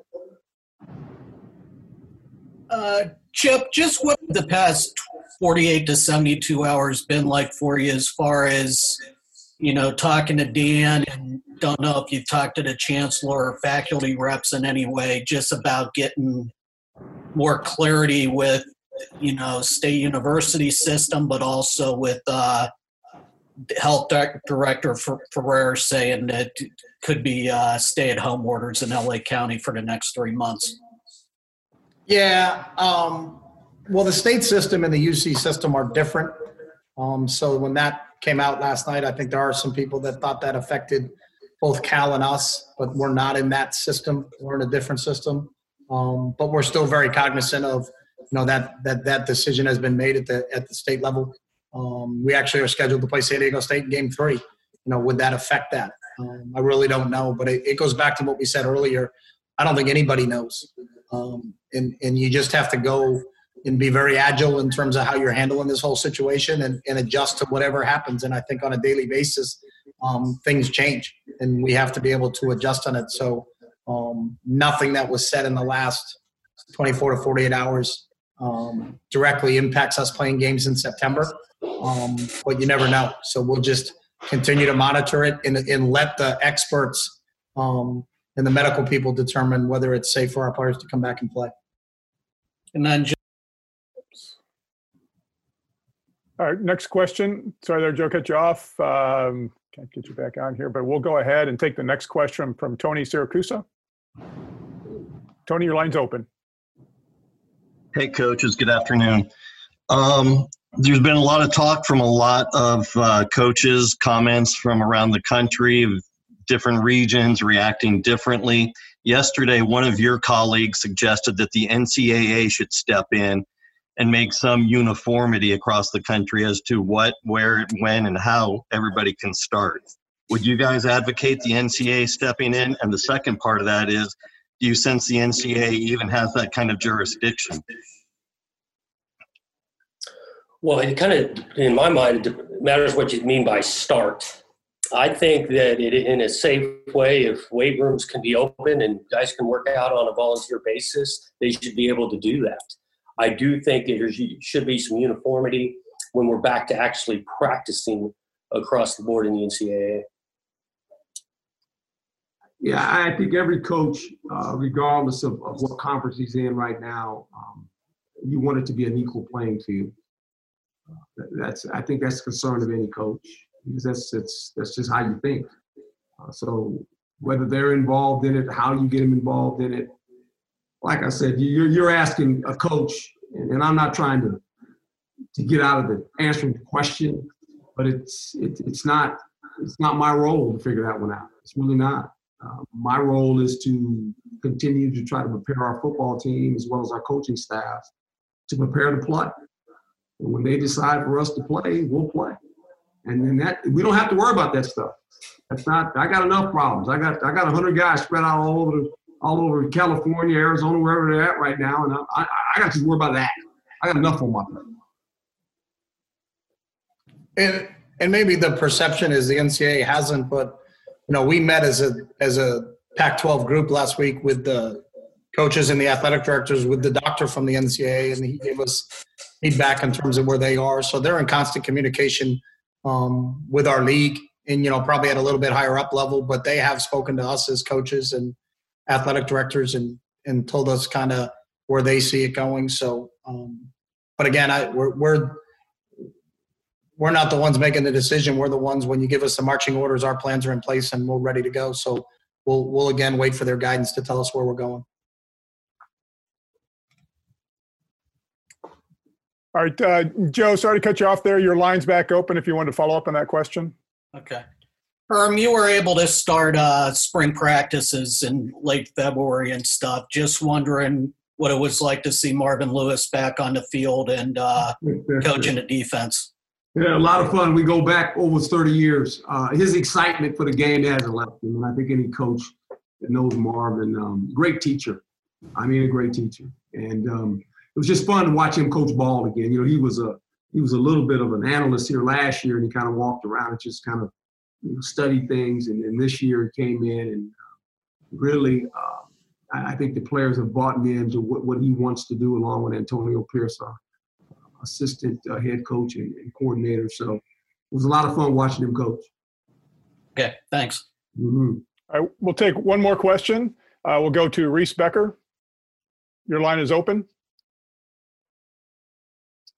Chip, just what the past 48 to 72 hours been like for you as far as, talking to Dan, and don't know if you've talked to the chancellor or faculty reps in any way, just about getting more clarity with, State University system, but also with Health Director Ferrer saying that it could be stay-at-home orders in LA County for the next 3 months. Yeah. Well, the state system and the UC system are different. So when that came out last night, I think there are some people that thought that affected both Cal and us, but we're not in that system. We're in a different system. But we're still very cognizant of, that decision has been made at the state level. We actually are scheduled to play San Diego State in Game 3. Would that affect that? I really don't know, but it goes back to what we said earlier. I don't think anybody knows. And you just have to go and be very agile in terms of how you're handling this whole situation and adjust to whatever happens. And I think on a daily basis, things change, and we have to be able to adjust on it. So nothing that was said in the last 24 to 48 hours directly impacts us playing games in September. But you never know. So we'll just continue to monitor it and let the experts and the medical people determine whether it's safe for our players to come back and play. And then all right, next question. Sorry there, Joe, cut you off. Can't get you back on here, but we'll go ahead and take the next question from Tony Siracusa. Tony, your line's open. Hey, coaches. Good afternoon. There's been a lot of talk from a lot of coaches, comments from around the country, different regions reacting differently. Yesterday, one of your colleagues suggested that the NCAA should step in and make some uniformity across the country as to what, where, when, and how everybody can start. Would you guys advocate the NCAA stepping in? And the second part of that is, do you sense the NCAA even has that kind of jurisdiction? Well, it kind of, in my mind, it matters what you mean by start. I think that in a safe way, if weight rooms can be open and guys can work out on a volunteer basis, they should be able to do that. I do think that there should be some uniformity when we're back to actually practicing across the board in the NCAA. Yeah, I think every coach, regardless of what conference he's in right now, you want it to be an equal playing field. I think that's the concern of any coach, because that's just how you think. So whether they're involved in it, how you get them involved in it, like I said, you're asking a coach, and I'm not trying to get out of the answering the question, but it's not my role to figure that one out. It's really not. My role is to continue to try to prepare our football team as well as our coaching staff to prepare to play. And when they decide for us to play, we'll play. And then that we don't have to worry about that stuff. That's not. I got enough problems. I got 100 guys spread out all over California, Arizona, wherever they're at right now, and I got to worry about that. I got enough on my plate. And maybe the perception is the NCAA hasn't, but we met as a Pac-12 group last week with the coaches and the athletic directors with the doctor from the NCAA, and he gave us feedback in terms of where they are. So they're in constant communication with our league, and probably at a little bit higher up level, but they have spoken to us as coaches and athletic directors and told us kind of where they see it going. So, but again, we're not the ones making the decision. We're the ones, when you give us the marching orders, our plans are in place and we're ready to go. So we'll again wait for their guidance to tell us where we're going. All right, Joe, sorry to cut you off there. Your line's back open if you want to follow up on that question. Okay. You were able to start spring practices in late February and stuff. Just wondering what it was like to see Marvin Lewis back on the field and coaching the defense. Yeah, a lot of fun. We go back over 30 years. His excitement for the game hasn't left him, and I think any coach that knows Marvin, great teacher. I mean, a great teacher. And it was just fun to watch him coach ball again. He was a little bit of an analyst here last year, and he kind of walked around and just kind of studied things. And this year he came in and really, I think the players have bought into what he wants to do, along with Antonio Pierce, our assistant head coach and coordinator. So it was a lot of fun watching him coach. Okay, thanks. Mm-hmm. All right, we'll take one more question. We'll go to Reese Becker. Your line is open.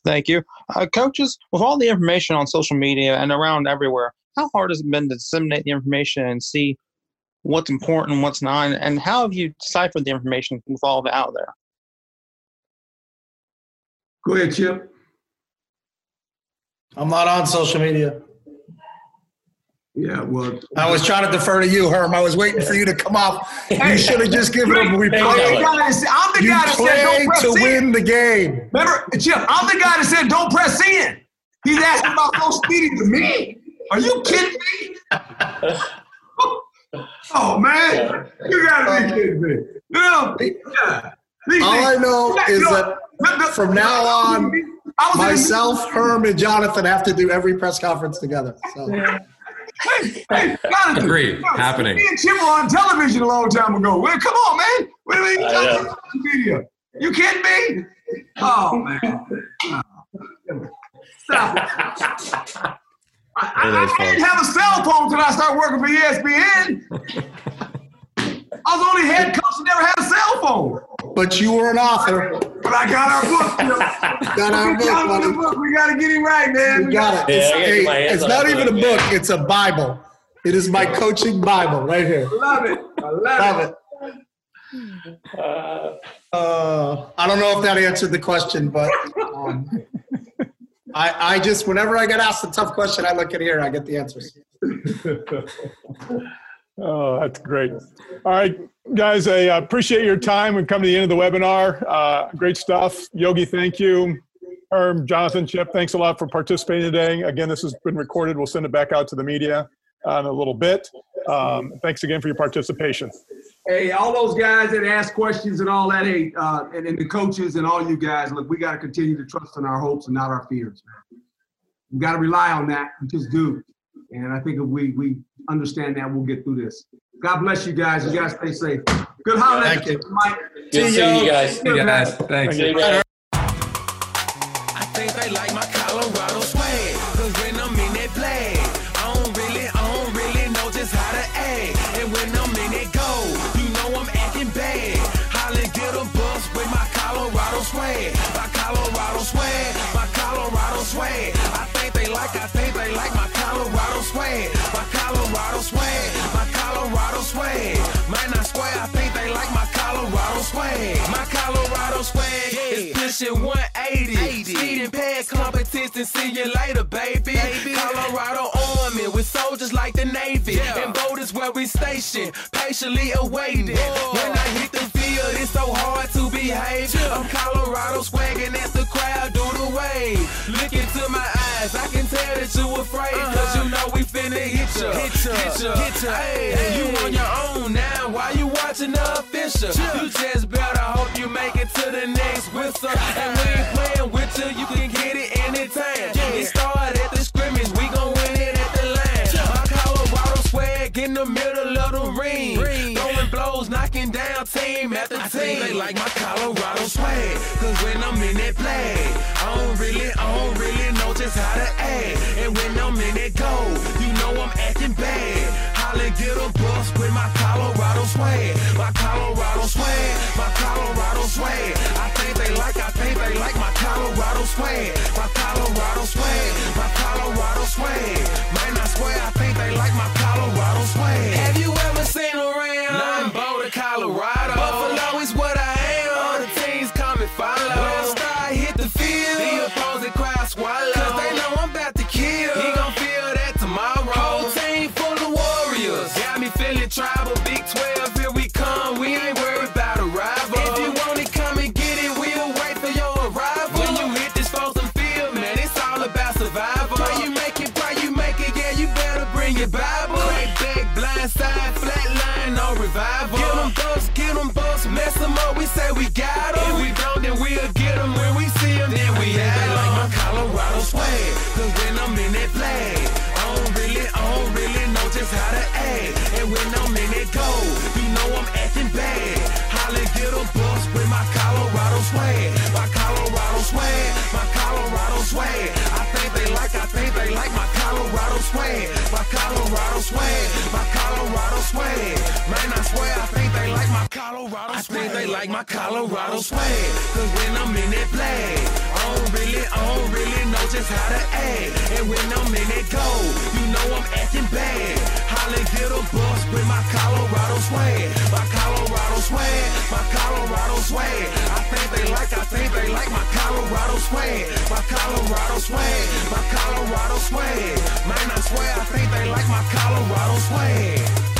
Thank you. Coaches, with all the information on social media and around everywhere, how hard has it been to disseminate the information and see what's important and what's not? And how have you deciphered the information with all of it out there? Go ahead, Chip. I'm not on social media. Yeah, well, I was trying to defer to you, Herm. I was waiting for you to come off. You should have just given him a reply. I'm the guy that said don't press to in. win the game. Remember, Chip, I'm the guy that said don't press in. He's asking about social media to me. Are you kidding me? Oh, man. You got to be kidding me. All I know is that from now on, myself, Herm, and Jonathan have to do every press conference together. So. Hey, Jonathan. Agreed. Happening. Me and Chip were on television a long time ago. Well, come on, man. What do you mean you talking social media? You kidding me? Oh, man. Stop it. I didn't have a cell phone until I started working for ESPN. I was only head coach and never had a cell phone. But you were an author. But I got our book. Got our book, buddy. We got to get him right, man. We got it. It's not even a book. It's a Bible. It is my coaching Bible right here. Love it. I love it. I don't know if that answered the question, but I just, whenever I get asked a tough question, I look at here, I get the answers. Oh, that's great. All right, guys, I appreciate your time. We've come to the end of the webinar. Great stuff. Yogi, thank you. Herm, Jonathan, Chip, thanks a lot for participating today. Again, this has been recorded. We'll send it back out to the media in a little bit. Thanks again for your participation. Hey, all those guys that ask questions and all that, hey, and the coaches and all you guys, look, we got to continue to trust in our hopes and not our fears, man. We got to rely on that. We just do. And I think if we understand that, we'll get through this. God bless you guys. You guys stay safe. Good holiday. Thank you. Mike. Good seeing you guys. See you guys. Thanks. See you guys. I think they like my Colorado swag, 'cause when I'm in that play, I don't really know just how to act. And when I'm in that go, you know I'm acting bad. Holla, get a bus with my Colorado swag. My Colorado swag, my Colorado swag. I think they like my Colorado swag. My Colorado swag, my Colorado swag. Man, I swear, I think they like my Colorado swag. My Colorado swag is pushing 180. Speeding past competition, see you later, baby. Colorado Army with soldiers like the Navy. And boat is where we station, patiently awaiting. When I hit the field, it's so hard to behave. I'm Colorado swagging as the crowd do the wave. Look into my eyes, I can tell that you afraid. 'Cause you know we finna hit ya. Hey, you on your own now, why you watching the official? You just better hope you make it to the next whistle. And we ain't playing with you, you can get it anytime. It started at the scrimmage, we gon' win it at the line. My Colorado swag in the middle of the ring. Throwing blows, knocking down team after team. I think they like my Colorado swag, 'cause when I'm in that play, I don't really know just how to act. And when I'm in that go, you know I'm acting bad. Holla, get a bus with my Colorado swag. My Colorado swag, my Colorado swag. I think they like my Colorado swag. My Colorado swag, my Colorado swag. Man, I swear, I think they like my Colorado swag. Have you ever seen around? Nothing but Colorado. Buffalo is what I am. All the teams come and follow. When I start hit the field, the opposing crowd swallow. 'Cause they know I'm about to kill. He gon' feel that tomorrow. Whole team full of warriors. Got me feeling tribal. Big 12, here we come. We ain't worried about a rival. If you want it, come and get it. We'll wait for your arrival. When you hit this frozen field, man, it's all about survival. Pray you make it, yeah, you better bring your Bible. Right back, blind side, flat line, no revival. Get them bucks, mess them up, we say we got them. If we don't, then we'll get them. When we see them, then we have them. Like my Colorado swag, 'cause when I'm in that flag, I don't really know just how to act. And when I'm in that go, you know I'm acting bad. Holla, get a bus with my Colorado swag. My Colorado swag, my Colorado swag. I think they like my Colorado swag. My Colorado swag, my Colorado swag. Man, I swear I think they like my Colorado swag. I think they like my Colorado swag. Cause when I'm in that flag, I don't really know just how to act. And when I'm in that goal, you know I'm acting bad. Holla, get a bus with my Colorado swag. My Colorado swag, my Colorado swag. I think they like my Colorado swag. My Colorado swag, my Colorado swag. Man, I swear I think they like my Colorado swag.